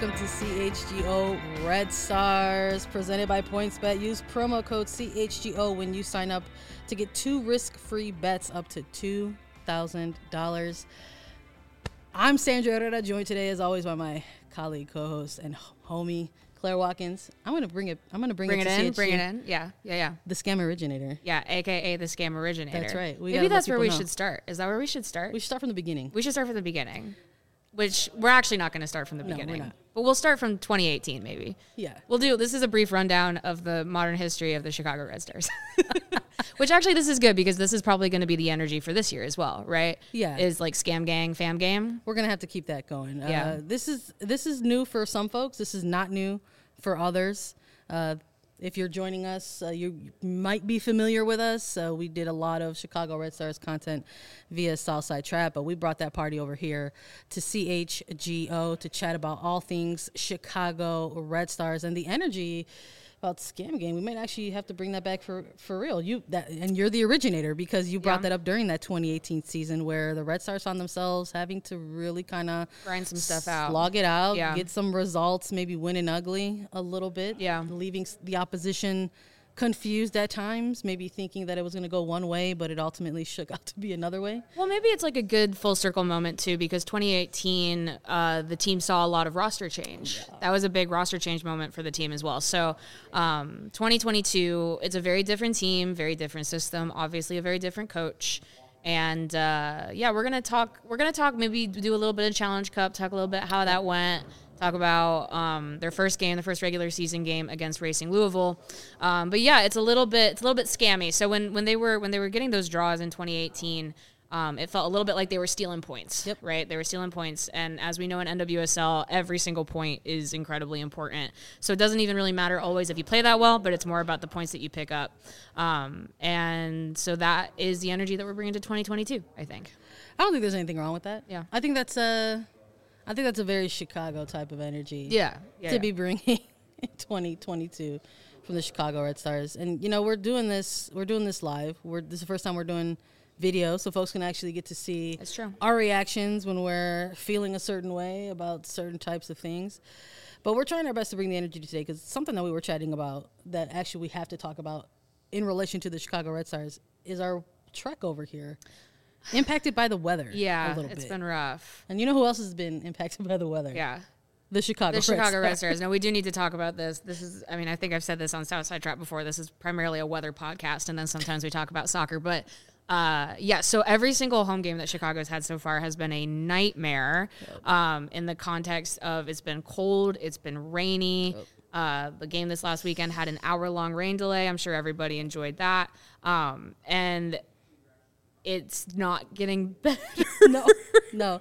welcome to CHGO Red Stars, presented by PointsBet. Use promo code CHGO when you sign up to get 2 risk-free bets up to $2,000. I'm Sandra Herrera, joined today as always by my colleague, co-host, and homie Claire Watkins. I'm gonna bring it in. Bring it in. Yeah. The scam originator. Yeah, aka the scam originator. That's right. Maybe that's where we should start. Is that where we should start? We should start from the beginning. We should start from the beginning. Which we're actually not going to start from the beginning. We're not. But we'll start from 2018 maybe. Yeah. This is a brief rundown of the modern history of the Chicago Red Stars. Which actually this is good because this is probably going to be the energy for this year as well, right? Yeah. Is like scam gang, fam game. We're going to have to keep that going. Yeah. This is new for some folks. This is not new for others. If you're joining us, you might be familiar with us. We did a lot of Chicago Red Stars content via Southside Trap, but we brought that party over here to CHGO to chat about all things Chicago Red Stars and the energy about Scam Game. We might actually have to bring that back for real. And you're the originator because you brought that up during that 2018 season where the Red Stars found themselves having to really kind of grind some stuff out, slog it out, get some results, maybe winning ugly a little bit, leaving the opposition confused at times, maybe thinking that it was going to go one way, but it ultimately shook out to be another way. Well, maybe it's like a good full circle moment too, because 2018, the team saw a lot of roster change. Yeah. That was a big roster change moment for the team as well. So 2022, it's a very different team, very different system, obviously a very different coach. And we're gonna talk. Maybe do a little bit of Challenge Cup. Talk a little bit how that went. Talk about their first game, the first regular season game against Racing Louisville. But yeah, it's a little bit scammy. So when they were getting those draws in 2018, it felt a little bit like they were stealing points. Yep. Right? They were stealing points, and as we know in NWSL, every single point is incredibly important. So it doesn't even really matter always if you play that well, but it's more about the points that you pick up. And so that is the energy that we're bringing to 2022. I think. I don't think there's anything wrong with that. Yeah. I think that's a very Chicago type of energy. To be bringing in 2022 from the Chicago Red Stars. And we're doing this live. This is the first time we're doing video, so folks can actually get to see our reactions when we're feeling a certain way about certain types of things. But we're trying our best to bring the energy today because something that we were chatting about that actually we have to talk about in relation to the Chicago Red Stars is our trek over here. Impacted by the weather. Yeah, a little bit. It's been rough. And you know who else has been impacted by the weather? Yeah. The Chicago Red Stars. No, we do need to talk about this. This is, I think I've said this on Southside Trap before. This is primarily a weather podcast, and then sometimes we talk about soccer. But, so every single home game that Chicago's had so far has been a nightmare in the context of it's been cold, it's been rainy. The game this last weekend had an hour-long rain delay. I'm sure everybody enjoyed that. And it's not getting better. No.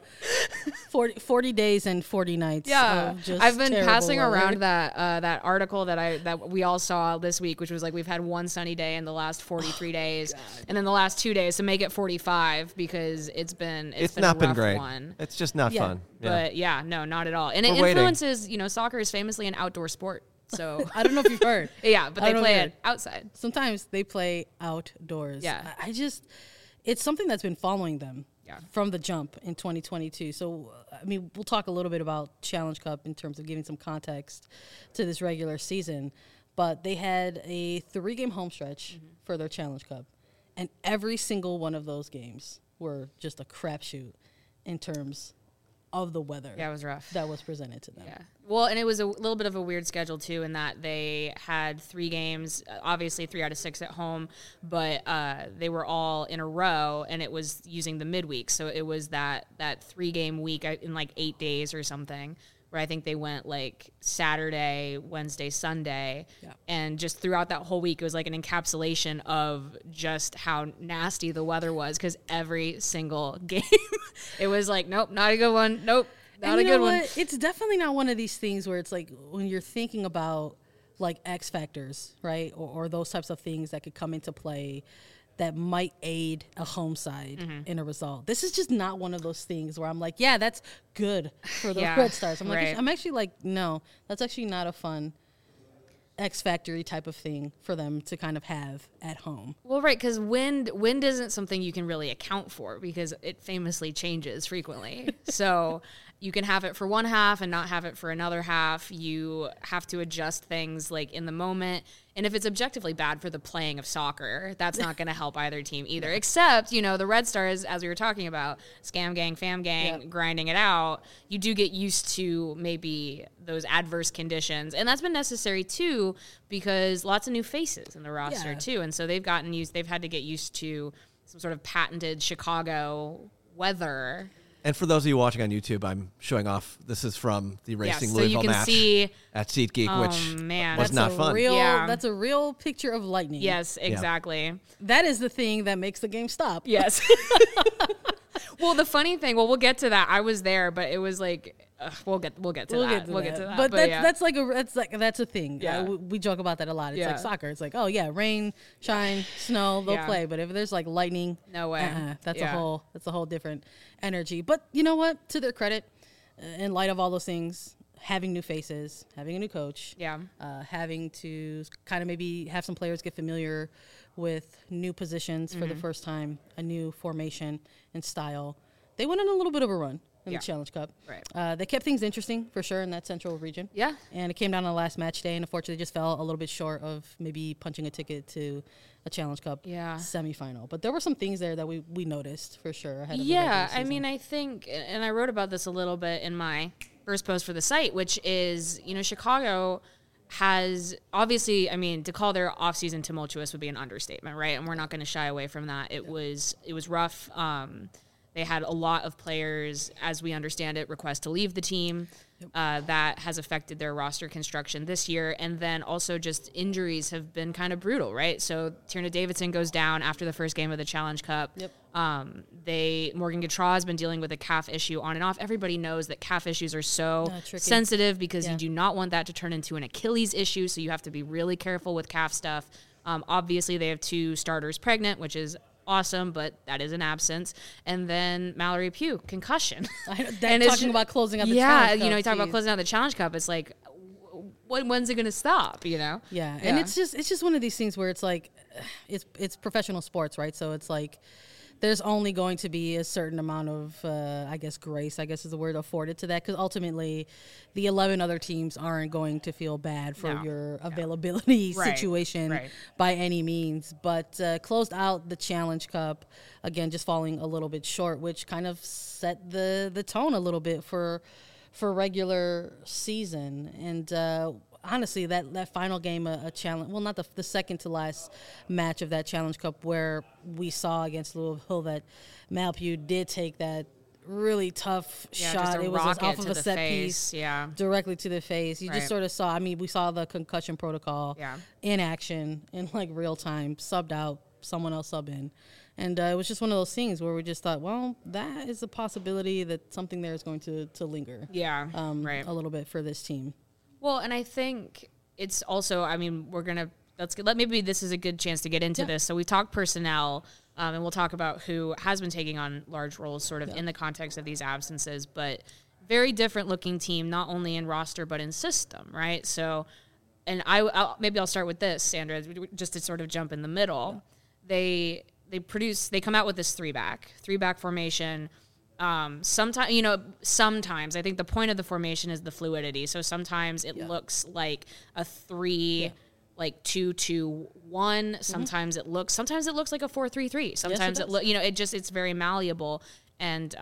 40 days and 40 nights. Yeah, I've been passing weather. around that article that we all saw this week, which was like we've had one sunny day in the last 43 days, and then the last 2 days, so make it 45 because it's been not a been rough great. One. It's just not fun. Yeah. But no, not at all. And it influences. Soccer is famously an outdoor sport. So I don't know if you've heard. Yeah, but they play it outside. Sometimes they play outdoors. Yeah, it's something that's been following them from the jump in 2022. So, we'll talk a little bit about Challenge Cup in terms of giving some context to this regular season. But they had a 3-game home stretch for their Challenge Cup. And every single one of those games were just a crapshoot in terms of the weather. Yeah, it was rough. That was presented to them. Yeah. Well, and it was a little bit of a weird schedule, too, in that they had 3 games, obviously 3 out of 6 at home, but they were all in a row, and it was using the midweek. So it was that 3-game week in like 8 days or something, where I think they went like Saturday, Wednesday, Sunday. Yeah. And just throughout that whole week, it was like an encapsulation of just how nasty the weather was, because every single game, it was like, nope, not a good one. Nope. Not a good one. It's definitely not one of these things where it's like when you're thinking about like X factors, right? Or those types of things that could come into play that might aid a home side in a result. This is just not one of those things where I'm like, yeah, that's good for the Red Stars. I'm actually like, no, that's actually not a fun X Factory type of thing for them to kind of have at home. Well, right, because wind isn't something you can really account for because it famously changes frequently. So you can have it for one half and not have it for another half. You have to adjust things like in the moment. And if it's objectively bad for the playing of soccer, that's not going to help either team either. Except, the Red Stars, as we were talking about, scam gang, fam gang, grinding it out, you do get used to maybe those adverse conditions. And that's been necessary too because lots of new faces in the roster too. And so they've had to get used to some sort of patented Chicago weather. And for those of you watching on YouTube, I'm showing off. This is from the Racing so Louisville you can match see, at SeatGeek, which was not fun. That's a real picture of lightning. Yes, exactly. Yeah. That is the thing that makes the game stop. Yes. Well, the funny thing, we'll get to that. I was there, but it was like, we'll get to that. We'll get to that. But that's a thing. Yeah. We joke about that a lot. It's like soccer. It's like, oh yeah, rain, shine, snow, they'll play. But if there's like lightning, no way. That's a whole different energy. But you know what? To their credit, in light of all those things, having new faces, having a new coach, having to kind of maybe have some players get familiar with new positions for the first time, a new formation and style, they went on a little bit of a run in the Challenge Cup. Right. They kept things interesting for sure in that central region. Yeah. And it came down to the last match day, and unfortunately just fell a little bit short of maybe punching a ticket to a Challenge Cup semifinal. But there were some things there that we noticed for sure ahead of the regular season. I mean, I think, and I wrote about this a little bit in my first post for the site, which is, Chicago has obviously, to call their offseason tumultuous would be an understatement, right? And we're not going to shy away from that. It was rough. They had a lot of players, as we understand it, request to leave the team. That has affected their roster construction this year. And then also just injuries have been kind of brutal, right? So Tierna Davidson goes down after the first game of the Challenge Cup. Yep. Morgan Gautrat has been dealing with a calf issue on and off. Everybody knows that calf issues are so sensitive because you do not want that to turn into an Achilles issue. So you have to be really careful with calf stuff. Obviously, they have 2 starters pregnant, which is awesome, but that is an absence. And then Mallory Pugh, concussion. Talking about closing out the Challenge Cup. You talk about closing out the Challenge Cup. It's like, when's it going to stop, Yeah, and it's just one of these things where it's like, it's professional sports, right? So it's like, there's only going to be a certain amount of, grace, is the word, afforded to that. Because ultimately, the 11 other teams aren't going to feel bad for your availability situation by any means. But closed out the Challenge Cup, again, just falling a little bit short, which kind of set the tone a little bit for regular season. And honestly, that final game, a challenge, well, not the second to last match of that Challenge Cup, where we saw against Louisville that Mal Pugh did take that really tough shot. It was off of a set piece directly to the face. You just sort of saw, we saw the concussion protocol in action in like real time, subbed out, someone else sub in. And it was just one of those things where we just thought, well, that is a possibility that something there is going to linger a little bit for this team. Well, and I think it's also, maybe this is a good chance to get into this. So we talked personnel, and we'll talk about who has been taking on large roles sort of in the context of these absences, but very different looking team, not only in roster, but in system, right? So, and I'll start with this, Sandra, just to sort of jump in the middle. Yeah. They come out with this three-back formation. Sometimes I think the point of the formation is the fluidity. So sometimes it looks like a 3, like 2-2-1. Sometimes it looks like a 4-3-3. Sometimes it's very malleable, and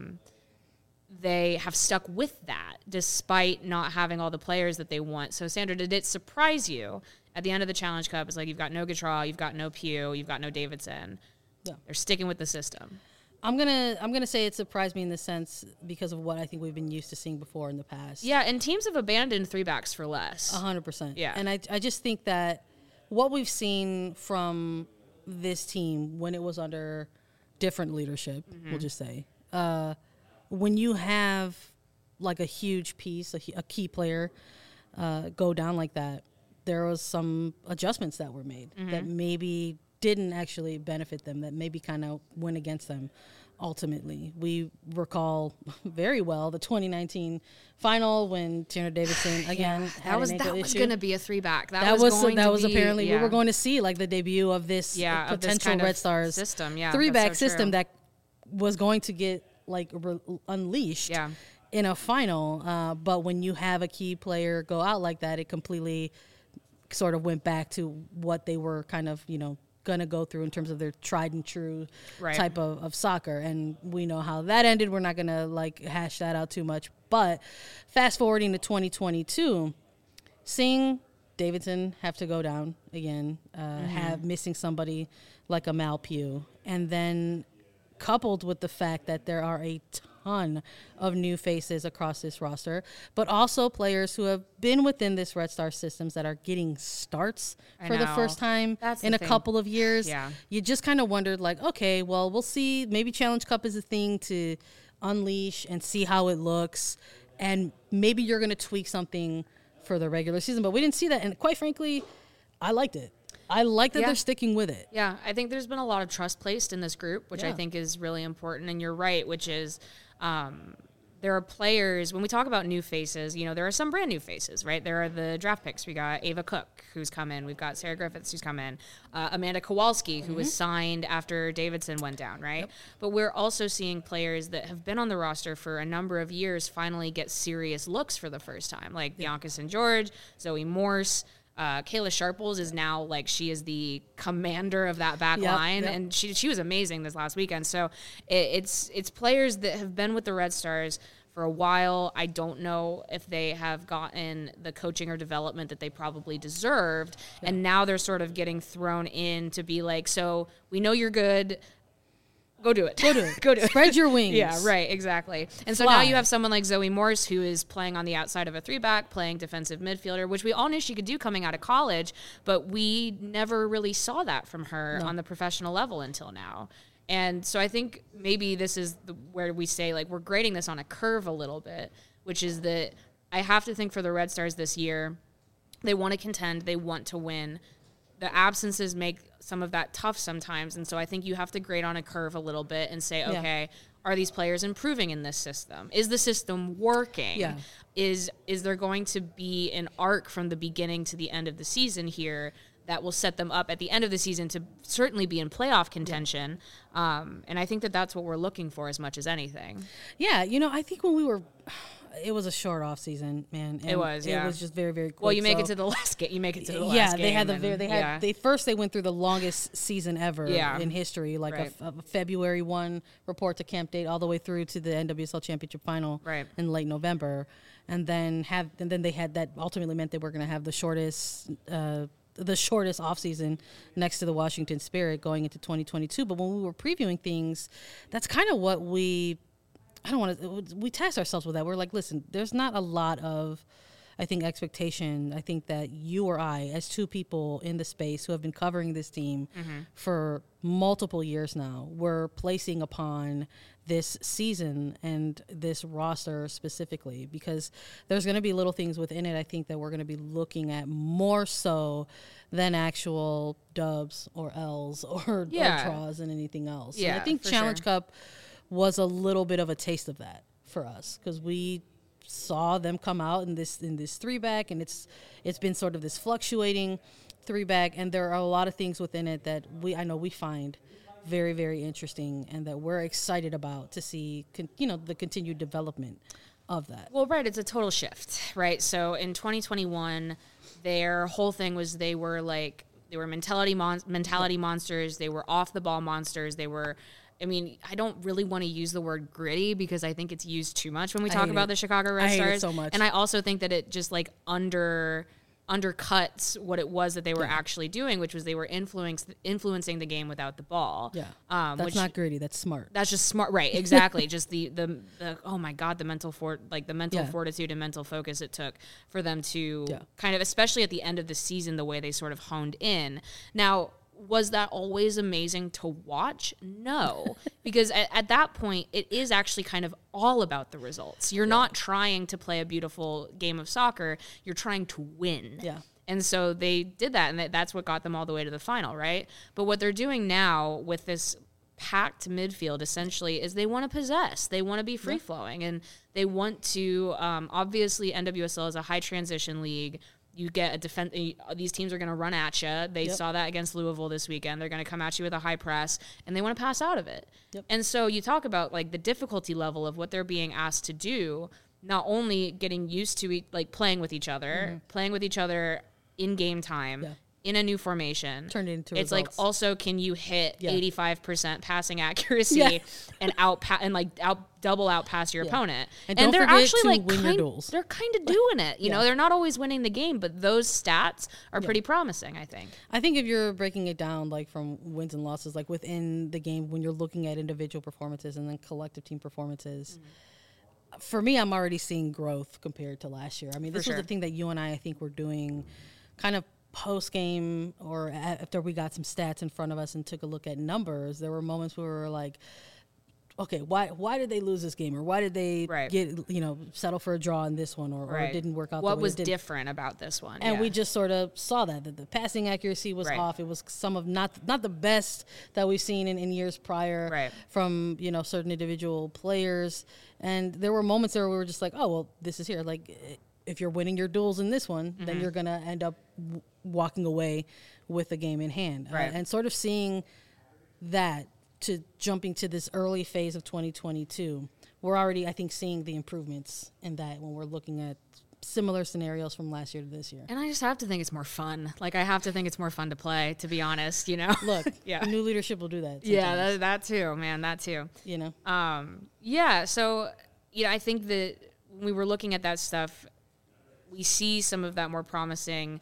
they have stuck with that despite not having all the players that they want. So Sandra, did it surprise you at the end of the Challenge Cup? It's like you've got no Gautrat, you've got no Pugh, you've got no Davidson. Yeah. They're sticking with the system. I'm gonna say it surprised me in the sense because of what I think we've been used to seeing before in the past. Yeah, and teams have abandoned 3-backs for less. 100%. Yeah, and I just think that what we've seen from this team when it was under different leadership, we'll just say, when you have like a huge piece, a key player, go down like that, there was some adjustments that were made that maybe didn't actually benefit them, that maybe kind of went against them ultimately. We recall very well the 2019 final when Tierna Davidson again had an ankle issue. Going to be a 3-back. That was apparently we were going to see like the debut of this potential of this kind Red of Stars system, 3-back system that was going to get like unleashed in a final. But when you have a key player go out like that, it completely sort of went back to what they were kind of, going to go through in terms of their tried and true type of soccer. And we know how that ended. We're not going to like hash that out too much. But fast forwarding to 2022, seeing Davidson have to go down again, have missing somebody like a Mal Pugh, and then coupled with the fact that there are a ton of new faces across this roster, but also players who have been within this Red Star systems that are getting starts for the first time in a couple of years. Yeah. You just kind of wondered like, okay, well, we'll see. Maybe Challenge Cup is a thing to unleash and see how it looks. And maybe you're going to tweak something for the regular season, but we didn't see that. And quite frankly, I liked it. I like that they're sticking with it. Yeah, I think there's been a lot of trust placed in this group, which I think is really important. And you're right, which is there are players, when we talk about new faces, there are some brand new faces, right? There are the draft picks. We got Ava Cook, who's come in. We've got Sarah Griffiths, who's come in. Amanda Kowalski, who was signed after Davidson went down, right? Yep. But we're also seeing players that have been on the roster for a number of years finally get serious looks for the first time, like Bianca St. George, Zoe Morse. Kayla Sharples is now like she is the commander of that back line, and she was amazing this last weekend. So it's players that have been with the Red Stars for a while. I don't know if they have gotten the coaching or development that they probably deserved, and now they're sort of getting thrown in to be like, so we know you're good. Go do it. Go do it. Spread your wings. Yeah, right, exactly. And so now you have someone like Zoe Morse who is playing on the outside of a 3-back, playing defensive midfielder, which we all knew she could do coming out of college, but we never really saw that from her on the professional level until now. And so I think maybe this is where we say, like, we're grading this on a curve a little bit, which is that I have to think for the Red Stars this year, they want to contend, they want to win. The absences make some of that tough sometimes. And so I think you have to grade on a curve a little bit and say, okay, are these players improving in this system? Is the system working? Yeah. Is there going to be an arc from the beginning to the end of the season here that will set them up at the end of the season to certainly be in playoff contention? And I think that's what we're looking for as much as anything. Yeah, I think when it was a short off season, man. And it was just very, very quick. Well, you make it to the last game. They went through the longest season ever in history, like a February 1 report to camp date all the way through to the NWSL Championship final in late November. And then they had that ultimately meant they were going to have the shortest off season next to the Washington Spirit going into 2022. But when we were previewing things, that's kind of what we tasked ourselves with that. We're like, listen, there's not a lot of, I think, expectation. I think that you or I, as two people in the space who have been covering this team for multiple years now, we're placing upon this season and this roster specifically, because there's going to be little things within it, I think, that we're going to be looking at more so than actual dubs or L's or draws and anything else. Yeah, and I think Challenge Cup was a little bit of a taste of that for us, because we saw them come out in this 3-back, and it's been sort of this fluctuating 3-back, and there are a lot of things within it that I know we find very, very interesting, and that we're excited about to see the continued development of that. Well, right, it's a total shift, right? So in 2021, their whole thing was they were mentality monsters, they were off the ball monsters, they were, I don't really want to use the word gritty because I think it's used too much when we talk about the Chicago Red Stars. I hate it so much. And I also think that it just undercuts what it was that they were actually doing, which was they were influencing the game without the ball. Yeah, that's not gritty. That's smart. That's just smart, right? Exactly. Just the oh my god, the mental fortitude and mental focus it took for them to kind of, especially at the end of the season, the way they sort of honed in. Now, was that always amazing to watch? No, because at that point, it is actually kind of all about the results. You're not trying to play a beautiful game of soccer. You're trying to win. Yeah. And so they did that, and that's what got them all the way to the final, right? But what they're doing now with this packed midfield essentially is they want to possess. They want to be free-flowing, and they want to obviously NWSL is a high transition league. You get a defense. These teams are going to run at you. They saw that against Louisville this weekend. They're going to come at you with a high press, and they want to pass out of it. And so you talk about like the difficulty level of what they're being asked to do. Not only getting used to like playing with each other in game time. In a new formation. Turned into it's results. like also can you hit 85% passing accuracy and out double out pass your opponent. And they're don't forget actually to like win your duels. They're kind of doing it. You know, they're not always winning the game, but those stats are pretty promising, I think. I think if you're breaking it down like from wins and losses, like within the game when you're looking at individual performances and then collective team performances, for me, I'm already seeing growth compared to last year. I mean, this was the thing that you and I think were doing kind of post-game or after we got some stats in front of us and took a look at numbers. There were moments where we were like, okay, why did they lose this game? Or why did they get, settle for a draw in this one or it didn't work out? What was different about this one? And we just sort of saw that the passing accuracy was off. It was some of not the best that we've seen in years prior from, certain individual players. And there were moments there where we were just like, oh, well, this is here. Like, if you're winning your duels in this one, then you're going to end up walking away with the game in hand. And sort of seeing that to jumping to this early phase of 2022, we're already, I think, seeing the improvements in that when we're looking at similar scenarios from last year to this year. And I just have to think it's more fun. Like, I have to think it's more fun to play, to be honest, Look, new leadership will do that sometimes. Yeah, that too, man, that too. So, I think that when we were looking at that stuff, we see some of that more promising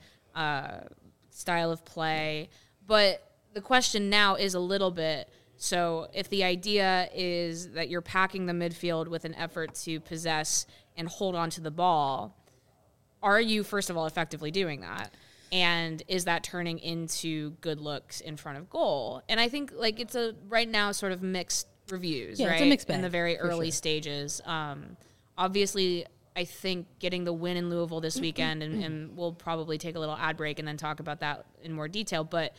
style of play. But the question now is a little bit, so if the idea is that you're packing the midfield with an effort to possess and hold on to the ball, are you, first of all, effectively doing that? And is that turning into good looks in front of goal? And I think like it's a right now sort of mixed reviews, right? It's a mixed bag, in the very early stages. Obviously, I think getting the win in Louisville this weekend, and we'll probably take a little ad break and then talk about that in more detail. But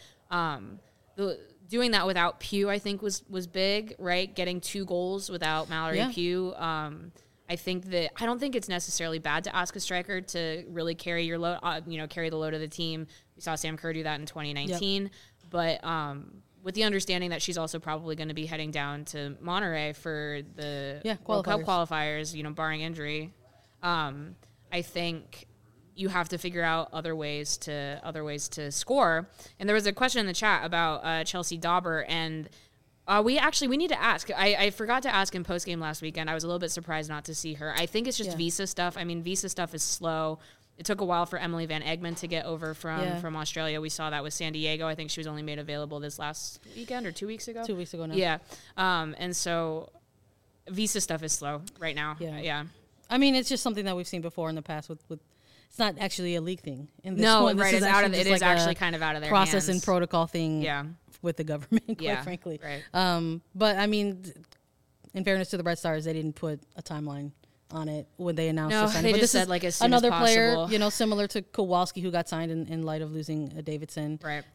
doing that without Pugh, I think, was big, right? Getting 2 goals without Mallory Pugh. I don't think it's necessarily bad to ask a striker to really carry your load, carry the load of the team. We saw Sam Kerr do that in 2019, but with the understanding that she's also probably going to be heading down to Monterrey for the World Cup qualifiers, barring injury. I think you have to figure out other ways to score. And there was a question in the chat about Chelsea Dauber, and we need to ask. I forgot to ask in postgame last weekend. I was a little bit surprised not to see her. I think it's just visa stuff. I mean, visa stuff is slow. It took a while for Emily Van Egmond to get over from Australia. We saw that with San Diego. I think she was only made available this last weekend or 2 weeks ago. 2 weeks ago now. Yeah. And so visa stuff is slow right now. Yeah. I mean, it's just something that we've seen before in the past with it's not actually a league thing. In this no, one, right. It's out of it is actually kind of out of their process hands. And protocol thing with the government, quite frankly. Right. But I mean, in fairness to the Red Stars, they didn't put a timeline on it when they announced the signing. They but just this said like as soon another as possible. player, similar to Kowalski, who got signed in light of losing Davidson. Right.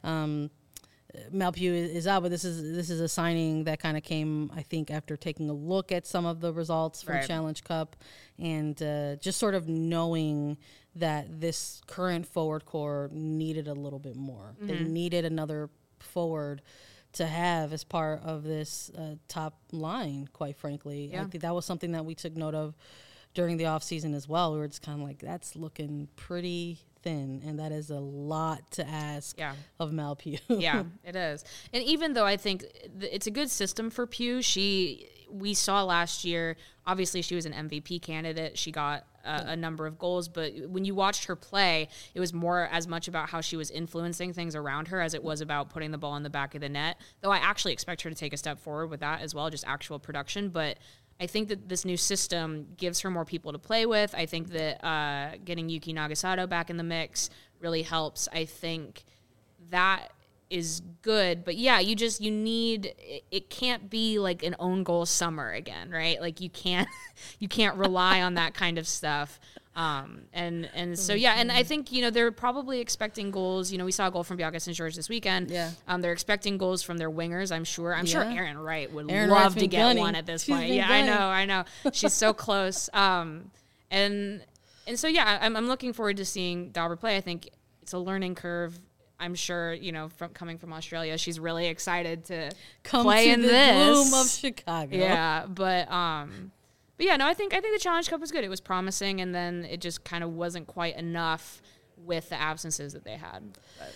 Mal Pugh is out, but this is a signing that kind of came, I think, after taking a look at some of the results from Challenge Cup and just sort of knowing that this current forward core needed a little bit more. Mm-hmm. They needed another forward to have as part of this top line, quite frankly. I think that was something that we took note of during the offseason as well. We were just kind of like, that's looking pretty thin, and that is a lot to ask of Mal Pugh. Yeah, it is. And even though I think it's a good system for Pugh, we saw last year, obviously she was an MVP candidate. She got a number of goals, but when you watched her play, it was more as much about how she was influencing things around her as it was about putting the ball in the back of the net, though I actually expect her to take a step forward with that as well, just actual production. But I think that this new system gives her more people to play with. I think that getting Yuki Nagasato back in the mix really helps. I think that is good, but you need, it can't be like an own goal summer again, right? Like you can't rely on that kind of stuff. And so, yeah, and I think, they're probably expecting goals. We saw a goal from Bianca St. George this weekend. Yeah. They're expecting goals from their wingers, I'm sure. I'm sure Erin Wright would Erin love Wright's to been get gunning. one at this She's point. been Yeah, gunning. I know. She's so close. And so, yeah, I'm looking forward to seeing Dauber play. I think it's a learning curve. I'm sure, from coming from Australia, she's really excited to Come play to in the this. bloom of Chicago. Yeah, but yeah, no, I think the Challenge Cup was good. It was promising, and then it just kind of wasn't quite enough with the absences that they had. But.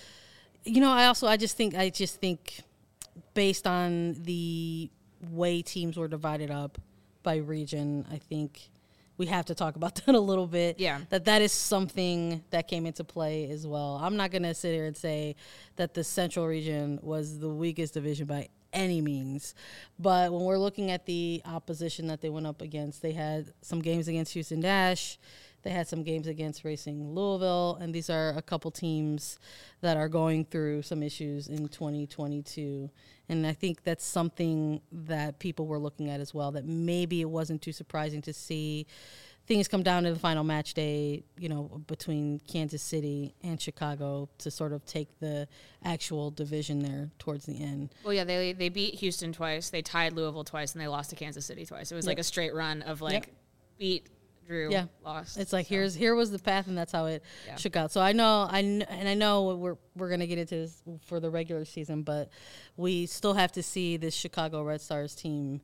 I just think based on the way teams were divided up by region, I think we have to talk about that a little bit. Yeah. That is something that came into play as well. I'm not going to sit here and say that the Central region was the weakest division by any means. But when we're looking at the opposition that they went up against, they had some games against Houston Dash. They had some games against Racing Louisville, and these are a couple teams that are going through some issues in 2022. And I think that's something that people were looking at as well, that maybe it wasn't too surprising to see things come down to the final match day, between Kansas City and Chicago to sort of take the actual division there towards the end. Well, yeah, they beat Houston twice, they tied Louisville twice, and they lost to Kansas City twice. It was like a straight run of beat, drew, lost. It's like here was the path, and that's how it shook out. So I know we're gonna get into this for the regular season, but we still have to see this Chicago Red Stars team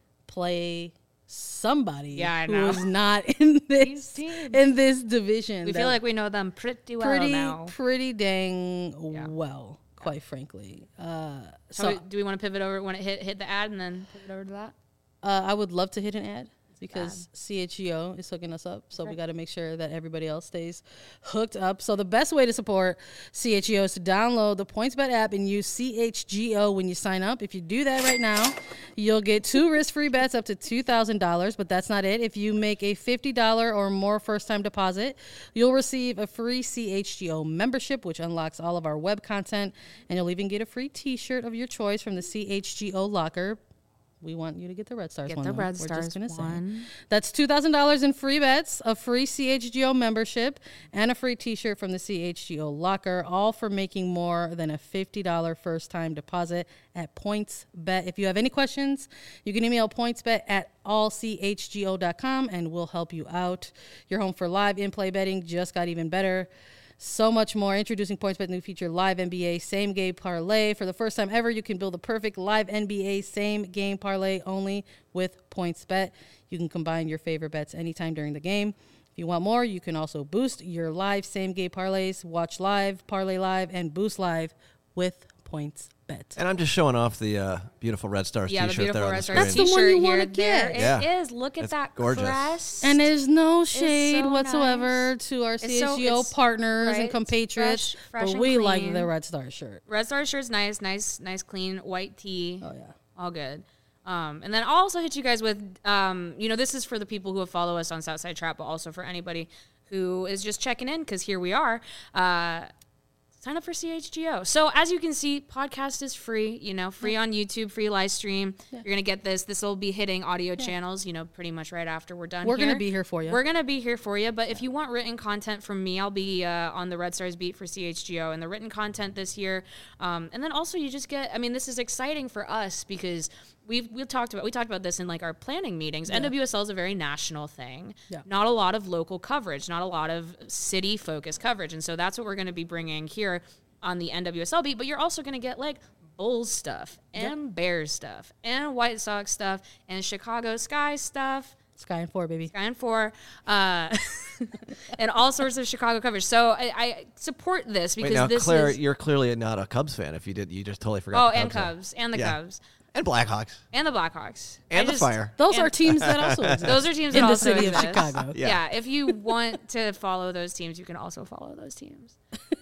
play somebody who is not in this division. We feel like we know them pretty well now. Pretty dang well, quite frankly. So do we want to pivot over? Want to hit the ad and then pivot over to that? I would love to hit an ad, because CHGO is hooking us up. So we got to make sure that everybody else stays hooked up. So the best way to support CHGO is to download the PointsBet app and use CHGO when you sign up. If you do that right now, you'll get 2 risk-free bets up to $2,000, but that's not it. If you make a $50 or more first-time deposit, you'll receive a free CHGO membership, which unlocks all of our web content, and you'll even get a free T-shirt of your choice from the CHGO locker. We want you to get the Red Stars one. Get the Red We're Stars just gonna one. say. That's $2,000 in free bets, a free CHGO membership, and a free T-shirt from the CHGO locker, all for making more than a $50 first-time deposit at PointsBet. If you have any questions, you can email pointsbet@allchgo.com, and we'll help you out. Your home for live in-play betting just got even better. So much more. Introducing PointsBet new feature, Live NBA Same Game Parlay. For the first time ever, you can build a perfect live NBA Same Game Parlay only with PointsBet. You can combine your favorite bets anytime during the game. If you want more, you can also boost your live Same Game Parlays, watch live, parlay live, and boost live with PointsBet. And I'm just showing off the beautiful Red Stars the T-shirt there beautiful on the Red screen. Stars That's the one you wanna There get. it is. Look at It's that gorgeous. crest. And there's no shade so whatsoever nice. to our It's CHGO it's- partners right, and compatriots, fresh but and we like clean. the Red Star shirt. Red Star shirt's nice, clean white tee. Oh, yeah. All good. And then I'll also hit you guys with, this is for the people who follow us on Southside Trap, but also for anybody who is just checking in, because here we are. Sign up for CHGO. So as you can see, podcast is free, free on YouTube, free live stream. Yeah. You're going to get this. This will be hitting audio channels, pretty much right after we're done. We're going to be here for you. We're going to be here for you. But if you want written content from me, I'll be on the Red Stars beat for CHGO and the written content this year. And then also you just get, this is exciting for us because we talked about this in like our planning meetings. Yeah. NWSL is a very national thing. Yeah. Not a lot of local coverage, not a lot of city focused coverage. And so that's what we're going to be bringing here on the NWSL beat. But you're also going to get like Bulls stuff and Bears stuff and White Sox stuff and Chicago Sky stuff. Sky and 4, baby. Sky and 4. And all sorts of Chicago coverage. So I support this because Claire, you're clearly not a Cubs fan. If you did, you just totally forgot. Oh, and Cubs. And the Cubs. And Blackhawks. And the Blackhawks. And the Fire. Those are teams that also exist. Those are teams that in the also city exist. of Chicago. Yeah, if you want to follow those teams, you can also follow those teams.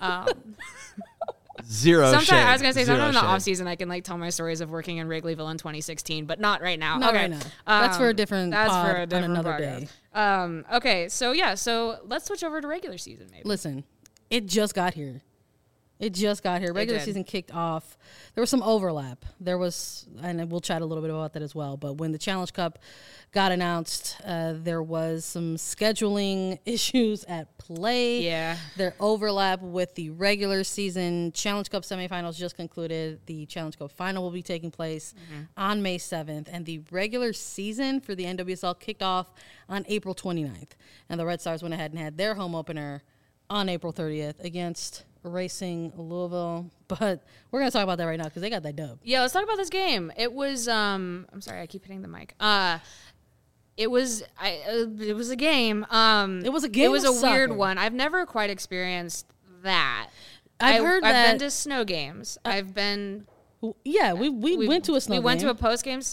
Zero sometimes shade. I was gonna say Zero sometimes in the shade. off season I can like tell my stories of working in Wrigleyville in 2016, but not right now. Not okay. right now. That's for a different That's pod for a different on another podcast. day. Okay, so let's switch over to regular season maybe. Listen, it just got here. It just got here. Regular did. season kicked off. There was some overlap. There was, and we'll chat a little bit about that as well. But when the Challenge Cup got announced, there was some scheduling issues at play. Yeah. Their overlap with the regular season. Challenge Cup semifinals just concluded. The Challenge Cup final will be taking place on May 7th. And the regular season for the NWSL kicked off on April 29th. And the Red Stars went ahead and had their home opener on April 30th against Racing Louisville, but we're gonna talk about that right now because they got that dub. Yeah, let's talk about this game. It was I'm sorry, I keep hitting the mic. It was a game. It was a game. It was of a weird soccer. one. I've never quite experienced that. I've heard that. I've been to snow games. I've been. Yeah, we went to a snow. We went game. to a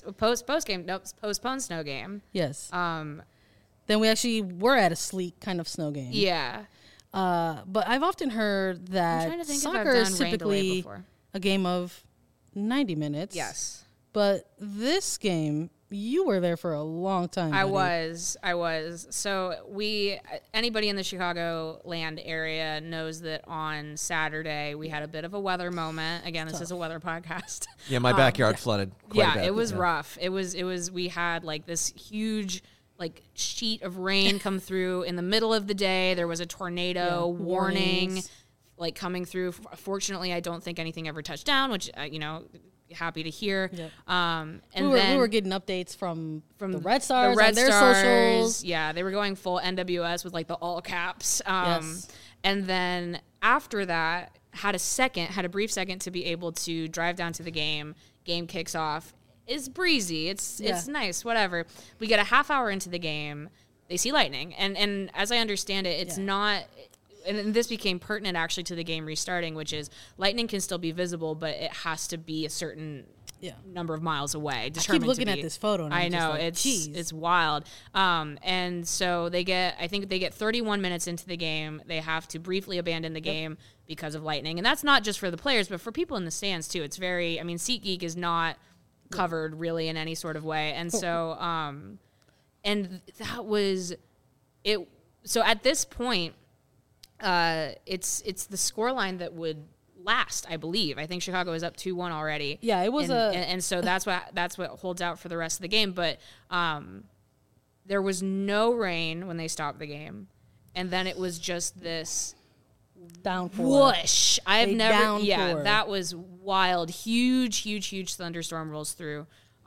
postponed snow game. Yes. Then we actually were at a sleek kind of snow game. Yeah. But I've often heard that trying to think if I've soccer done is rain delay typically before. a game of 90 minutes. Yes. But this game, you were there for a long time. I buddy. was. So anybody in the Chicagoland area knows that on Saturday we had a bit of a weather moment. Again, this is a weather podcast. Yeah, my backyard flooded quite a bit. It was rough. It was, we had like this huge like sheet of rain come through in the middle of the day. There was a tornado warning warnings. like coming through. Fortunately, I don't think anything ever touched down, which, happy to hear. Yep. And we were getting updates from the Red Stars, the Red on their Stars, socials. Yeah, they were going full NWS with like the all caps. Yes. And then after that, had a brief second to be able to drive down to the game. Game kicks off. It's breezy. It's nice. Whatever. We get a half hour into the game. They see lightning, and as I understand it, it's not. And this became pertinent actually to the game restarting, which is lightning can still be visible, but it has to be a certain number of miles away. I keep looking at this photo. And I I'm know, just like, it's wild. And so I think they get 31 minutes into the game. They have to briefly abandon the game because of lightning. And that's not just for the players, but for people in the stands too. It's very, SeatGeek is not covered really in any sort of way. And so, and that was it. So at this point, it's the scoreline that would last, I believe. I think Chicago is up 2-1 already. Yeah, it was and so that's what holds out for the rest of the game. But there was no rain when they stopped the game, and then it was just this downpour. whoosh. That was wild. Huge thunderstorm rolls through.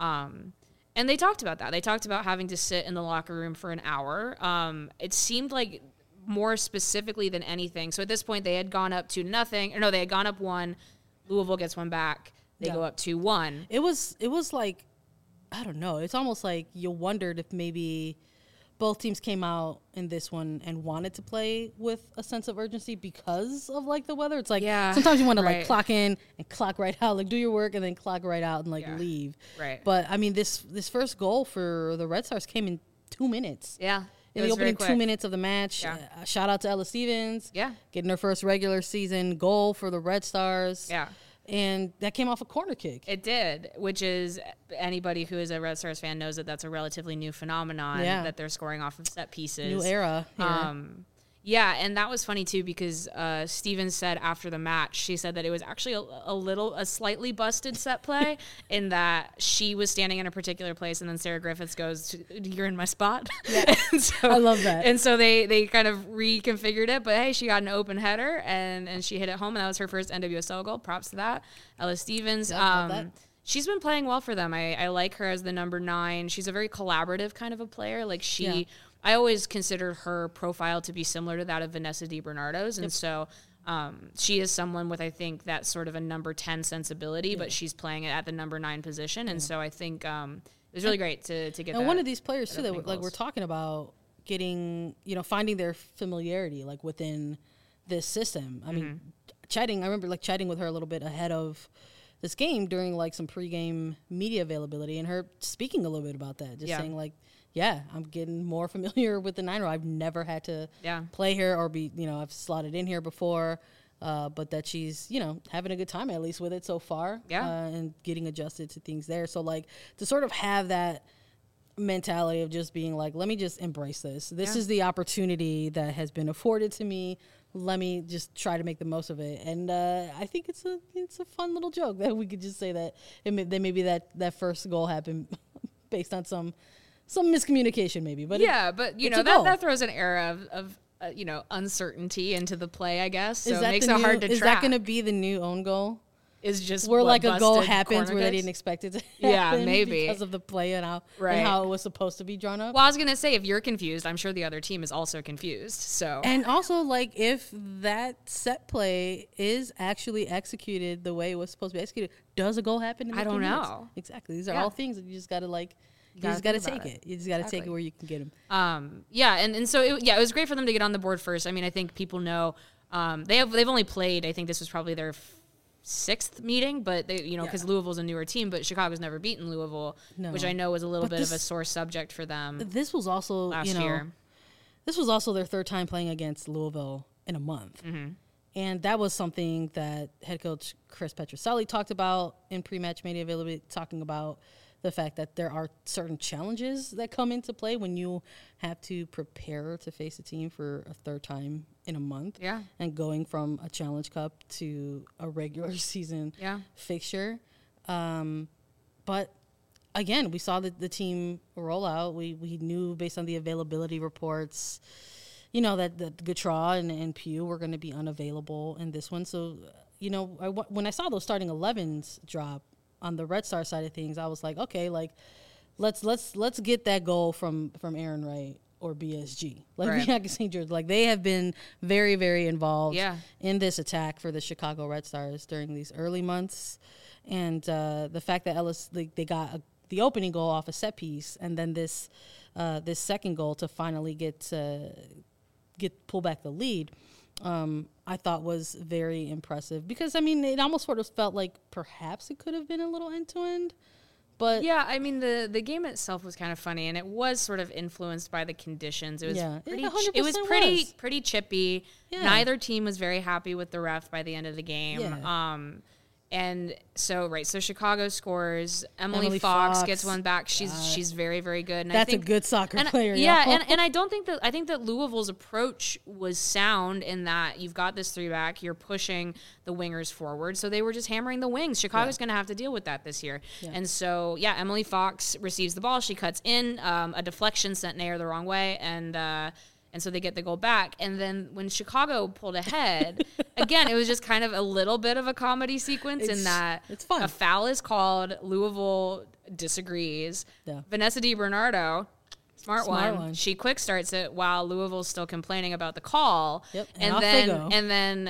And they talked about that. They talked about having to sit in the locker room for an hour. It seemed like more specifically than anything. So at this point, they had gone up 2-0. Or no, they had gone up 1. Louisville gets one back. They go up 2-1. It was like, I don't know. It's almost like you wondered if maybe both teams came out in this one and wanted to play with a sense of urgency because of like the weather. It's like sometimes you want to like clock in and clock right out, like do your work and then clock right out and like leave. Right. But I mean, this first goal for the Red Stars came in 2 minutes. Yeah. In the opening 2 minutes of the match. Yeah. Shout out to Ella Stevens. Yeah. Getting her first regular season goal for the Red Stars. Yeah. And that came off a corner kick. It did, which is anybody who is a Red Stars fan knows that that's a relatively new phenomenon that they're scoring off of set pieces. New era. Yeah, and that was funny too because Stevens said after the match, she said that it was actually a slightly busted set play in that she was standing in a particular place and then Sarah Griffiths goes, "You're in my spot." Yeah. I love that. And so they kind of reconfigured it, but hey, she got an open header and she hit it home, and that was her first NWSL goal. Props to that. Ella Stevens. Love that. She's been playing well for them. I like her as the number 9. She's a very collaborative kind of a player. Like I always considered her profile to be similar to that of Vanessa DiBernardo's. And so she is someone with, I think, that sort of a number 10 sensibility, but she's playing it at the number 9 position. And so I think it was really great to get that. And one of these players, too, that like we're talking about getting, finding their familiarity, like within this system. I mean, I remember like chatting with her a little bit ahead of this game during like some pregame media availability and her speaking a little bit about that, just saying like, I'm getting more familiar with the Niner. I've never had to play here or be, I've slotted in here before, but that she's, having a good time at least with it so far and getting adjusted to things there. So like to sort of have that mentality of just being like, let me just embrace this. This is the opportunity that has been afforded to me. let me just try to make the most of it. And I think it's a fun little joke that we could just say that maybe that first goal happened based on some miscommunication maybe. But but you know that throws an air of uncertainty into the play, I guess. So it makes it hard to track. Is that going to be the new own goal? Is just where like a goal happens where they didn't expect it to happen. Yeah, maybe because of the play and how it was supposed to be drawn up. Well, I was gonna say, if you're confused, I'm sure the other team is also confused. So and also like if that set play is actually executed the way it was supposed to be executed, does a goal happen? I don't know. Exactly. These are all things that you just gotta like. You just got to take it. You just got to take it where you can get them. And so it was great for them to get on the board first. I mean, I think people know they've only played. I think this was probably their sixth meeting, but because Louisville's a newer team, but Chicago's never beaten Louisville, which I know was a little bit of a sore subject for them. This was also last year. This was also their third time playing against Louisville in a month. And that was something that head coach Chris Petrucelli talked about in pre-match media availability, talking about the fact that there are certain challenges that come into play when you have to prepare to face a team for a third time in a month. Yeah. And going from a Challenge Cup to a regular season fixture. But again, we saw the team roll out. We knew based on the availability reports, that Gautrat and Pugh were going to be unavailable in this one. So, when I saw those starting 11s drop, on the Red Star side of things, I was like, okay, like let's get that goal from Aaron Wright or BSG. Like Bianca St. George. Like they have been very, very involved in this attack for the Chicago Red Stars during these early months. And the fact that Ellis they got the opening goal off a set piece and then this second goal to finally get pull back the lead. I thought was very impressive because, I mean, it almost sort of felt like perhaps it could have been a little end-to-end, but... Yeah, I mean, the game itself was kind of funny, and it was sort of influenced by the conditions. It was pretty chippy. Yeah. Neither team was very happy with the ref by the end of the game. Yeah. And so Chicago scores. Emily Fox gets one back. She's very, very good. And that's a good soccer player. Yeah, and I think that Louisville's approach was sound in that you've got this 3-back, you're pushing the wingers forward. So they were just hammering the wings. Chicago's going to have to deal with that this year. Yeah. And so Emily Fox receives the ball. She cuts in. A deflection sent Nair the wrong way, and so they get the goal back. And then when Chicago pulled ahead, again, it was just kind of a little bit of a comedy sequence in that it's fun. A foul is called. Louisville disagrees. Yeah. Vanessa DiBernardo, smart one. She quick starts it while Louisville's still complaining about the call. Yep. And then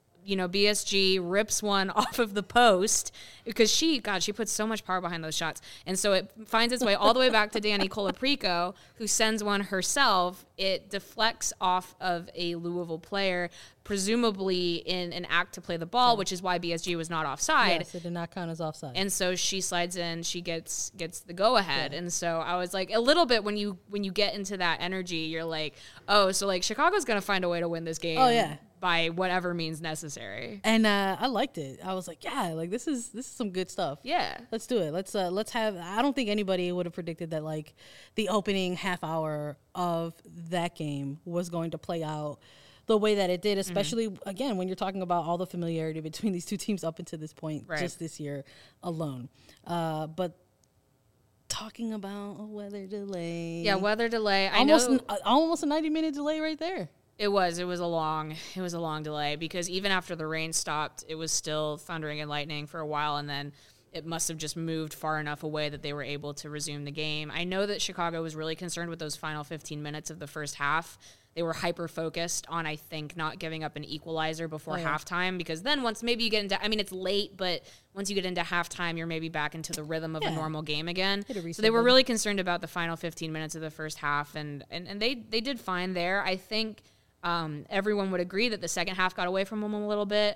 BSG rips one off of the post because she puts so much power behind those shots. And so it finds its way all the way back to Danny Colaprico, who sends one herself. It deflects off of a Louisville player, presumably in an act to play the ball, which is why BSG was not offside. Yes, it did not count as offside. And so she slides in, she gets the go ahead. Yeah. And so I was like, a little bit when you get into that energy, you're like, oh, so like Chicago's going to find a way to win this game. Oh, yeah. By whatever means necessary. And I liked it. I was like, this is some good stuff. Yeah. Let's do it. Let's have, I don't think anybody would have predicted that like the opening half hour of that game was going to play out the way that it did, especially again, when you're talking about all the familiarity between these two teams up until this point, just this year alone. But talking about a weather delay. Yeah, weather delay. Almost a 90-minute delay right there. It was a long delay because even after the rain stopped, it was still thundering and lightning for a while, and then it must have just moved far enough away that they were able to resume the game. I know that Chicago was really concerned with those final 15 minutes of the first half. They were hyper-focused on, I think, not giving up an equalizer before halftime, because then once maybe you get into, I mean, it's late, but once you get into halftime, you're maybe back into the rhythm of a normal game again. So they were really concerned about the final 15 minutes of the first half, and they did fine there. I think everyone would agree that the second half got away from them a little bit.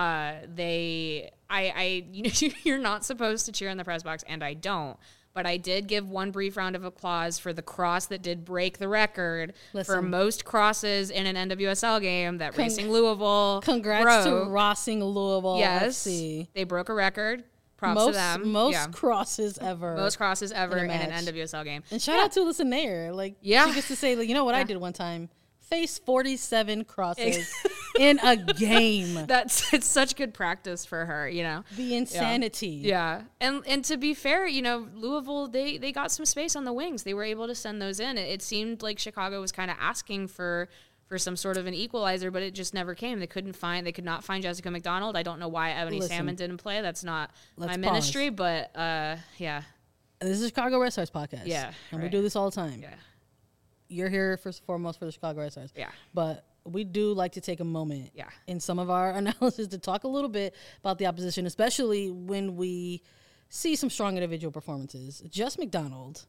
You're not supposed to cheer in the press box, and I don't. But I did give one brief round of applause for the cross that did break the record for most crosses in an NWSL game that Racing Louisville Congrats to Racing Louisville. Yes, FC. They broke a record. Props to them. Most crosses ever. Most crosses ever in an NWSL game. And shout out to Alyssa Nair. Like, she gets to say, like, you know what I did one time? face 47 crosses in a game. It's such good practice for her, you know. The insanity. Yeah. And to be fair, you know, Louisville, they got some space on the wings. They were able to send those in. It seemed like Chicago was kind of asking for some sort of an equalizer, but it just never came. They could not find Jessica McDonald. I don't know why Ebony Salmon didn't play. That's not my ministry, but yeah. This is a Chicago Red Stars podcast. Yeah. And we do this all the time. Yeah. You're here first and foremost for the Chicago Red Stars. Yeah. But we do like to take a moment in some of our analysis to talk a little bit about the opposition, especially when we see some strong individual performances. Jess McDonald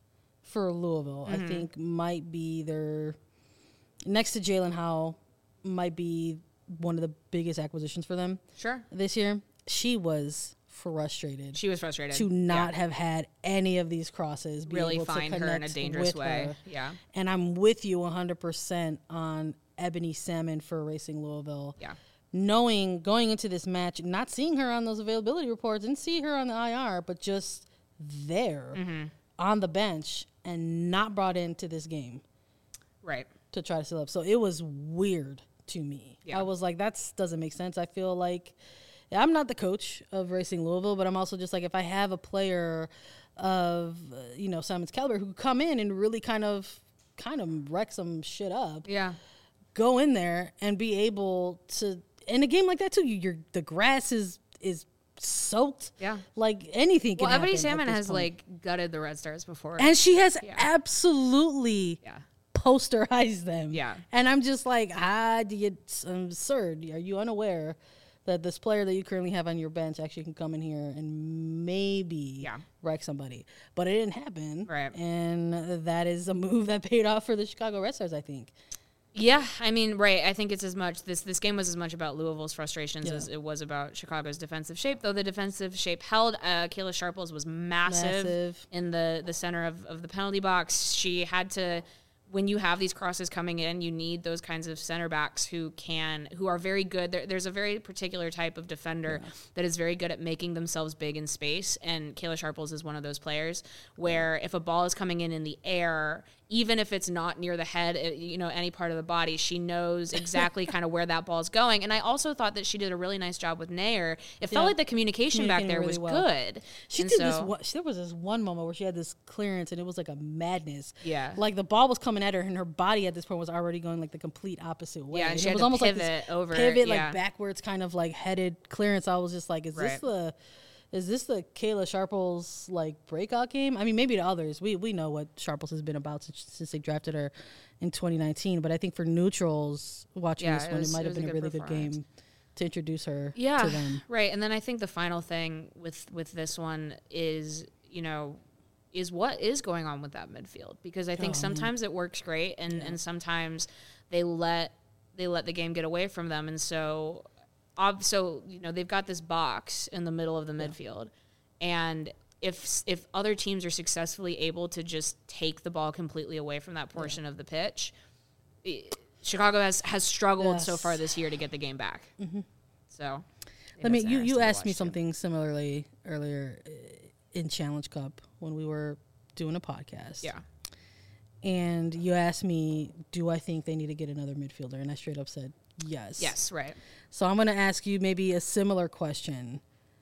for Louisville, I think, might be their, next to Jalen Howe, might be one of the biggest acquisitions for them this year. She was frustrated. She was frustrated to not have had any of these crosses. Really find her in a dangerous way. Yeah. And I'm with you 100% on Ebony Salmon for Racing Louisville. Yeah. Knowing, going into this match, not seeing her on those availability reports, didn't see her on the IR, but just there on the bench and not brought into this game. Right. To try to seal up. So it was weird to me. Yeah. I was like, that doesn't make sense. I feel like I'm not the coach of Racing Louisville, but I'm also just like, if I have a player of, Simon's caliber who could come in and really kind of wreck some shit up. Yeah. Go in there and be able to, in a game like that too, the grass is soaked. Yeah. Like anything can happen. Well, Ebony Salmon has gutted the Red Stars before. And she has absolutely Yeah. posterize them. Yeah. And I'm just like, it's absurd. Are you unaware that this player that you currently have on your bench actually can come in here and maybe wreck somebody? But it didn't happen. Right. And that is a move that paid off for the Chicago Red Stars, I think. Yeah, I mean, right. I think it's as much, this game was as much about Louisville's frustrations as it was about Chicago's defensive shape, though the defensive shape held. Kayla Sharples was massive in the center of the penalty box. She had to, when you have these crosses coming in, you need those kinds of center backs who are very good. There's a very particular type of defender that is very good at making themselves big in space, and Kayla Sharples is one of those players where if a ball is coming in the air, even if it's not near the head, any part of the body, she knows exactly kind of where that ball's going. And I also thought that she did a really nice job with Nair. It felt like the communication back there was good. She did there was this one moment where she had this clearance and it was like a madness. Yeah. Like the ball was coming at her and her body at this point was already going like the complete opposite way. Yeah, and she it had was to almost pivot like this over. Pivot like backwards kind of like headed clearance. I was just like, is this the Kayla Sharples like breakout game? I mean, maybe to others. We know what Sharples has been about since they drafted her in 2019. But I think for neutrals watching this one, it might have been a really good game to introduce her to them. Right. And then I think the final thing with this one is, is what is going on with that midfield. Because I think sometimes it works great and sometimes they let the game get away from them. And so they've got this box in the middle of the midfield, and if other teams are successfully able to just take the ball completely away from that portion of the pitch, Chicago has struggled so far this year to get the game back. Mm-hmm. So, you asked me something similarly earlier in Challenge Cup when we were doing a podcast. Yeah. And you asked me, do I think they need to get another midfielder? And I straight up said yes. Yes, right. So I'm going to ask you maybe a similar question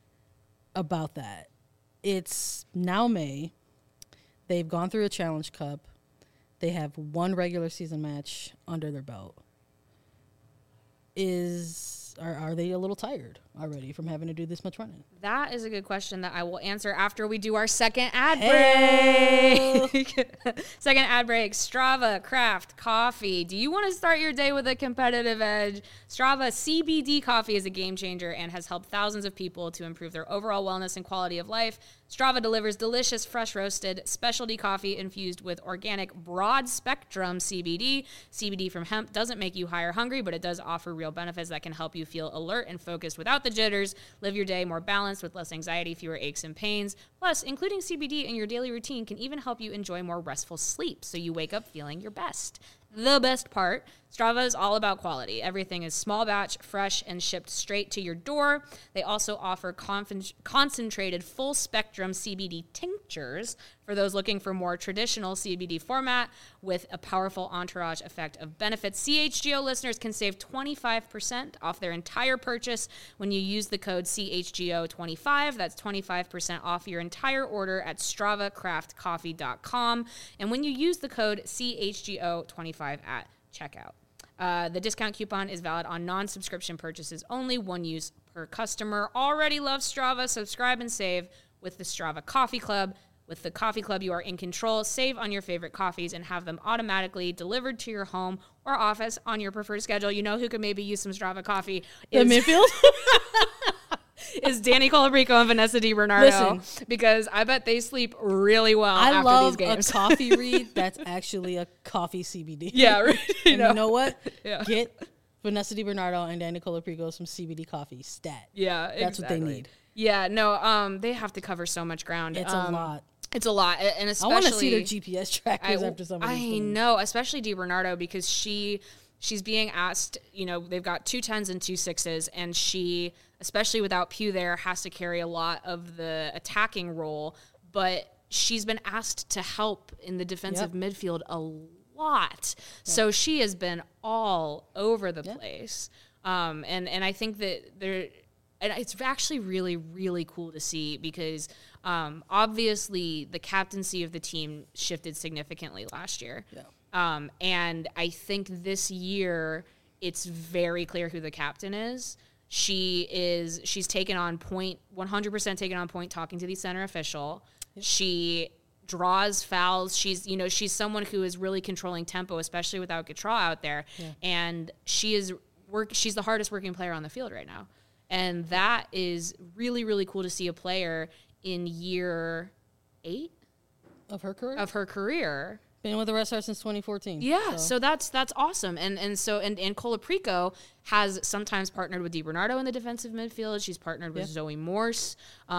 about that. It's now May. They've gone through a Challenge Cup. They have one regular season match under their belt. Are they a little tired already from having to do this much running? That is a good question that I will answer after we do our second ad break. Second ad break. Strava Craft Coffee. Do you want to start your day with a competitive edge? Strava CBD coffee is a game changer and has helped thousands of people to improve their overall wellness and quality of life. Strava delivers delicious, fresh roasted specialty coffee infused with organic broad spectrum CBD. CBD from hemp doesn't make you high or hungry, but it does offer real benefits that can help you feel alert and focused without the jitters. Live your day more balanced with less anxiety, fewer aches and pains. Plus, including CBD in your daily routine can even help you enjoy more restful sleep so you wake up feeling your best. The best part, Strava is all about quality. Everything is small batch, fresh, and shipped straight to your door. They also offer concentrated full spectrum CBD tinctures for those looking for more traditional CBD format with a powerful entourage effect of benefits. CHGO listeners can save 25% off their entire purchase when you use the code CHGO25. That's 25% off your entire order at StravaCraftCoffee.com. And when you use the code CHGO25 at checkout. The discount coupon is valid on non-subscription purchases only, one use per customer. Already love Strava? Subscribe and save with the Strava Coffee Club. With the Coffee Club, you are in control. Save on your favorite coffees and have them automatically delivered to your home or office on your preferred schedule. You know who could maybe use some Strava coffee? The midfield? Is Danny Colabrico and Vanessa DiBernardo. Listen, because I bet they sleep really well after these games. I love a coffee read that's actually a coffee CBD. Yeah, right. You know what? Yeah. Get Vanessa DiBernardo and Danny Colabrico some CBD coffee stat. Yeah, that's what they need. Yeah, no, they have to cover so much ground. It's a lot. It's a lot, and especially I want to see their GPS trackers after some of these things. I know, especially DiBernardo, because she's being asked, you know, they've got 2 10s and 2 6s, and she, especially without Pugh there, has to carry a lot of the attacking role, but she's been asked to help in the defensive midfield a lot. Yep. So she has been all over the place. And I think that it's actually really, really cool to see because obviously the captaincy of the team shifted significantly last year. Yeah. And I think this year it's very clear who the captain is. She's taken on point, 100% taken on point talking to the center official. Yep. She draws fouls. She's someone who is really controlling tempo, especially without Gautrat out there. Yeah. And she's the hardest working player on the field right now. And that is really, really cool to see a player in year 8 of her career. Been with the Red Stars since 2014. Yeah, so that's awesome. And Colaprico has sometimes partnered with DiBernardo in the defensive midfield. She's partnered with Zoe Morse.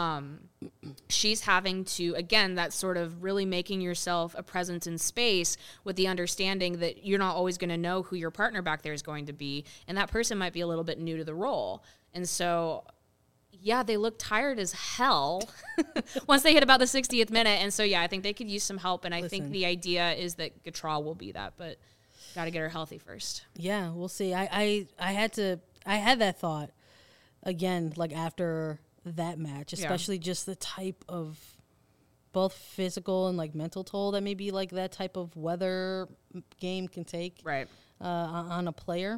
She's having to, again, that's sort of really making yourself a presence in space with the understanding that you're not always going to know who your partner back there is going to be. And that person might be a little bit new to the role. And so, yeah, they look tired as hell once they hit about the 60th minute. And so, yeah, I think they could use some help. And I think the idea is that Gautrat will be that, but got to get her healthy first. Yeah, we'll see. I had that thought again, like after that match, especially just the type of both physical and like mental toll that maybe like that type of weather game can take on a player.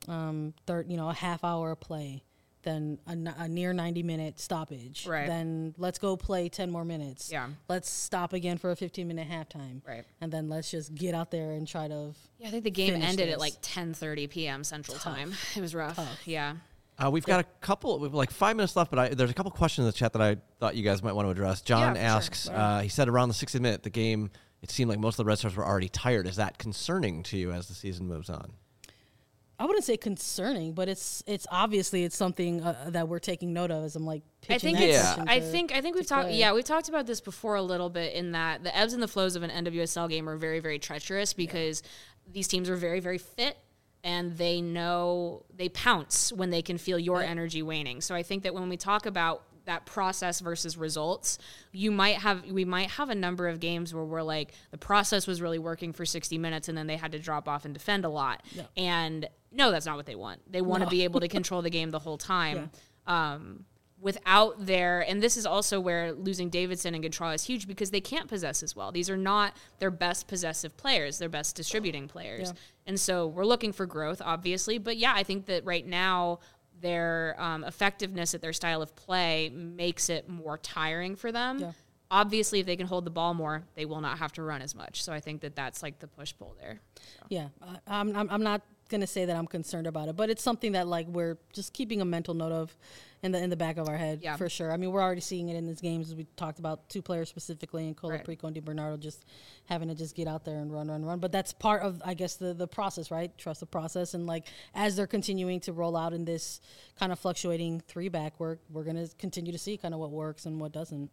A half hour play. Then a near 90-minute stoppage. Right. Then let's go play 10 more minutes. Yeah. Let's stop again for a 15-minute halftime. Right. And then let's just get out there and try to. Yeah, I think the game ended at like 10:30 p.m. Central Time. It was rough. Yeah. We've got like 5 minutes left, but there's a couple questions in the chat that I thought you guys might want to address. John asks, he said around the 60th minute, the game, it seemed like most of the Red Stars were already tired. Is that concerning to you as the season moves on? I wouldn't say concerning, but it's obviously it's something that we're taking note of as I'm like pitching I think we've talked we've talked about this before a little bit in that the ebbs and the flows of an NWSL game are very, very treacherous because these teams are very, very fit and they pounce when they can feel your energy waning. So I think that when we talk about that process versus results, we might have a number of games where we're like the process was really working for 60 minutes and then they had to drop off and defend a lot. Yeah. And no, that's not what they want. They want to be able to control the game the whole time. Yeah. Without and this is also where losing Davidson and Gautrat is huge because they can't possess as well. These are not their best possessive players, their best distributing players. Yeah. And so we're looking for growth, obviously. But yeah, I think that right now their effectiveness at their style of play makes it more tiring for them. Yeah. Obviously, if they can hold the ball more, they will not have to run as much. So I think that that's like the push-pull there. So. Yeah, I'm not going to say that I'm concerned about it, but it's something that like we're just keeping a mental note of in the back of our head for sure. I mean, we're already seeing it in these games as we talked about 2 players specifically in Colaprico and DiBernardo just having to just get out there and run. But that's part of, I guess, the process, right? Trust the process. And like as they're continuing to roll out in this kind of fluctuating 3-back work, we're going to continue to see kind of what works and what doesn't.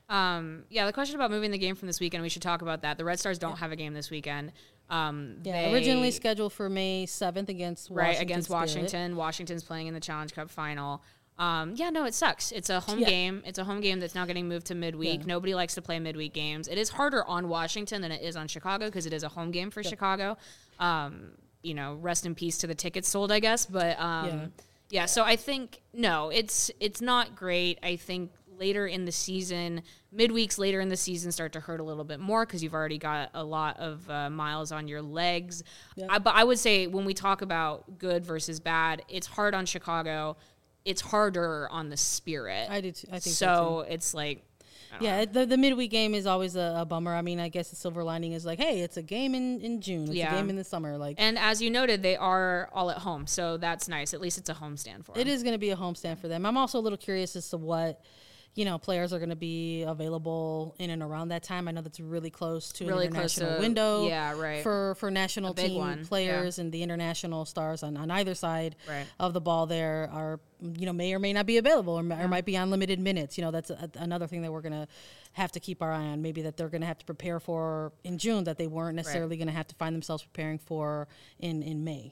The question about moving the game from this weekend, we should talk about that. The Red Stars don't have a game this weekend. They originally scheduled for May 7th against Washington. Washington's playing in the Challenge Cup final. It sucks. It's a home game. It's a home game that's now getting moved to midweek. Nobody likes to play midweek games. It is harder on Washington than it is on Chicago because it is a home game for Chicago. Rest in peace to the tickets sold, I guess. But so I think it's not great. I think later in the season, midweeks later in the season start to hurt a little bit more because you've already got a lot of miles on your legs. But I would say when we talk about good versus bad, it's hard on Chicago. It's harder on the Spirit. I do too. I think so. It's like, the midweek game is always a bummer. I mean, I guess the silver lining is like, hey, it's a game in June. It's a game in the summer. And as you noted, they are all at home, so that's nice. At least it's a homestand for them. It is going to be a homestand for them. I'm also a little curious as to what players are going to be available in and around that time. I know that's really close to an international window for national team players and the international stars on either side of the ball there are, may or may not be available or might be on limited minutes. That's another thing that we're going to have to keep our eye on, maybe that they're going to have to prepare for in June that they weren't necessarily going to have to find themselves preparing for in May.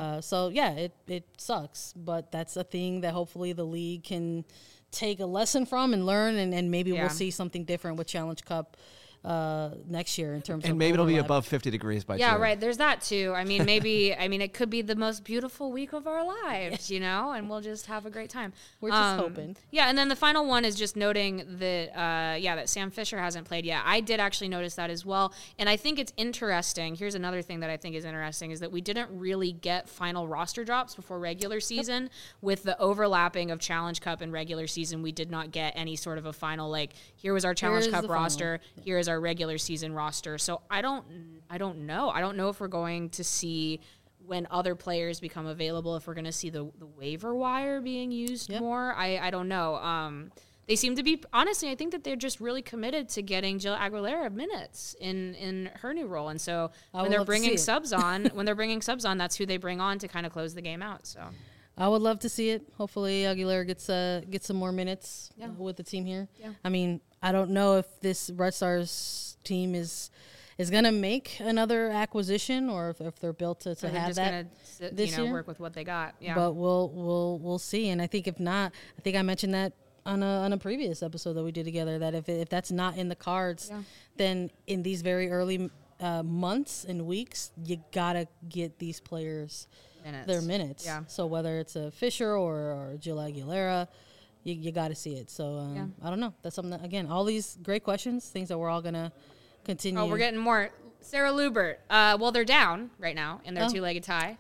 It sucks, but that's a thing that hopefully the league can take a lesson from and learn, and maybe we'll see something different with Challenge Cup next year in terms of maybe it'll be above 50 degrees by June. Right. There's that too. I mean, maybe it could be the most beautiful week of our lives, and we'll just have a great time. We're just hoping. And then the final one is just noting that that Sam Fisher hasn't played yet. I did actually notice that as well, and I think it's interesting. Here's another thing that I think is interesting is that we didn't really get final roster drops before regular season. With the overlapping of Challenge Cup and regular season, we did not get any sort of a final here was our Challenge Cup roster. Here is our regular season roster. So I don't know. I don't know if we're going to see when other players become available, if we're going to see the waiver wire being used more. I don't know. They seem to be, honestly, I think that they're just really committed to getting Jill Aguilera minutes in her new role. And so when they're bringing subs on, that's who they bring on to kind of close the game out. So I would love to see it. Hopefully Aguilera gets some more minutes with the team here. Yeah. I mean, I don't know if this Red Stars team is going to make another acquisition or if they're built to have that this year. Work with what they got. Yeah. But we'll see. And I think if not, I think I mentioned that on a previous episode that we did together, that if that's not in the cards, then in these very early months and weeks, you gotta get these players their minutes. Yeah. So whether it's a Fisher or Jill Aguilera, you got to see it. So I don't know. That's something that, again, all these great questions, things that we're all gonna continue. Oh, we're getting more. Sarah Lubert. Well, they're down right now in their two-legged tie.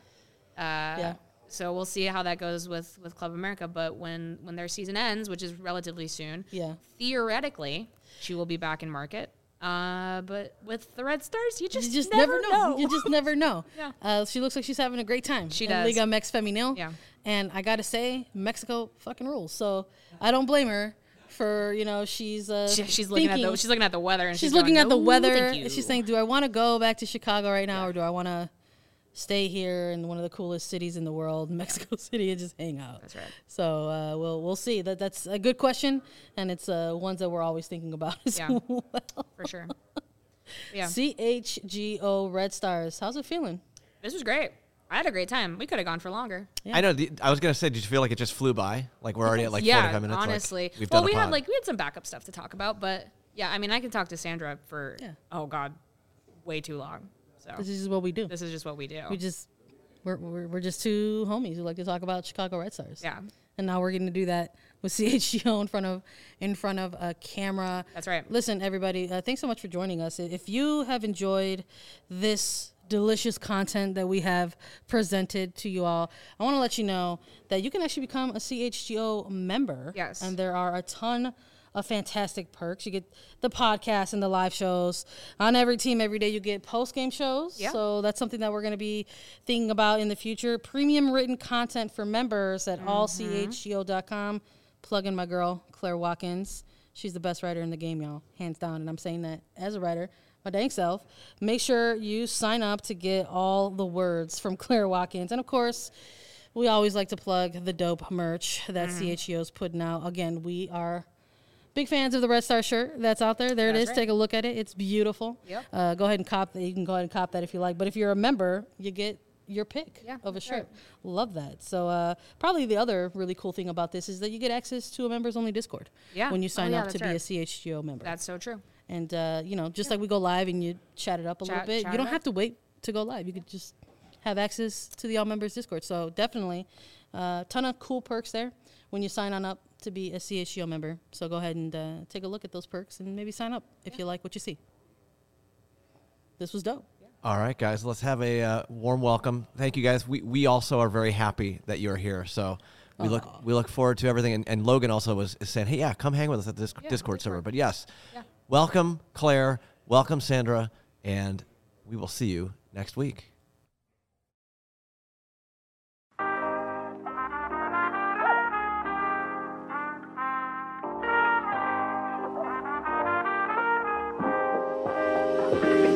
So we'll see how that goes with Club America. But when their season ends, which is relatively soon, theoretically, she will be back in market. But with the Red Stars, you just never know. You just never know. She looks like she's having a great time. She does. Liga Mex Femenil. Yeah. And I got to say, Mexico fucking rules. So I don't blame her for, she's looking at the weather and she's looking at the weather and she's saying, do I want to go back to Chicago right now or do I want to stay here in one of the coolest cities in the world, Mexico City, and just hang out? That's right. So we'll see. That's a good question, and it's ones that we're always thinking about as well. For sure. Yeah. CHGO Red Stars. How's it feeling? This was great. I had a great time. We could have gone for longer. Yeah. I know. I was gonna say, did you feel like it just flew by? Like we're already at 45 minutes. Honestly. We had some backup stuff to talk about, but yeah, I mean, I could talk to Sandra for way too long. So this is what we do. This is just what we do. We're just two homies who like to talk about Chicago Red Stars. Yeah. And now we're going to do that with CHGO in front of a camera. That's right. Listen, everybody, thanks so much for joining us. If you have enjoyed this delicious content that we have presented to you all, I want to let you know that you can actually become a CHGO member. Yes. And there are a ton of fantastic perks. You get the podcast and the live shows on every team every day. You get post-game shows. Yeah. So that's something that we're going to be thinking about in the future. Premium written content for members at allchgo.com. Plug in my girl, Claire Watkins. She's the best writer in the game, y'all. Hands down. And I'm saying that as a writer, my dang self. Make sure you sign up to get all the words from Claire Watkins. And, of course, we always like to plug the dope merch that CHGO is putting out. Again, we are big fans of the Red Star shirt that's out there. There it is. Right. Take a look at it. It's beautiful. Yep. Go ahead and cop that. You can go ahead and cop that if you like. But if you're a member, you get your pick of a shirt. Right. Love that. So probably the other really cool thing about this is that you get access to a members only Discord when you sign up to be a CHGO member. That's so true. And just like we go live and you chat it up a little bit, you don't have to wait to go live. You could just have access to the All Members Discord. So definitely ton of cool perks there when you sign on up to be a CHGO member. So go ahead and take a look at those perks and maybe sign up if you like what you see. This was dope. All right, guys, let's have a warm welcome. Thank you, guys. We also are very happy that you're here. So we look forward to everything. And Logan also is saying, hey, yeah, come hang with us at this Discord server. But yes, welcome, Claire. Welcome, Sandra. And we will see you next week. Thank you.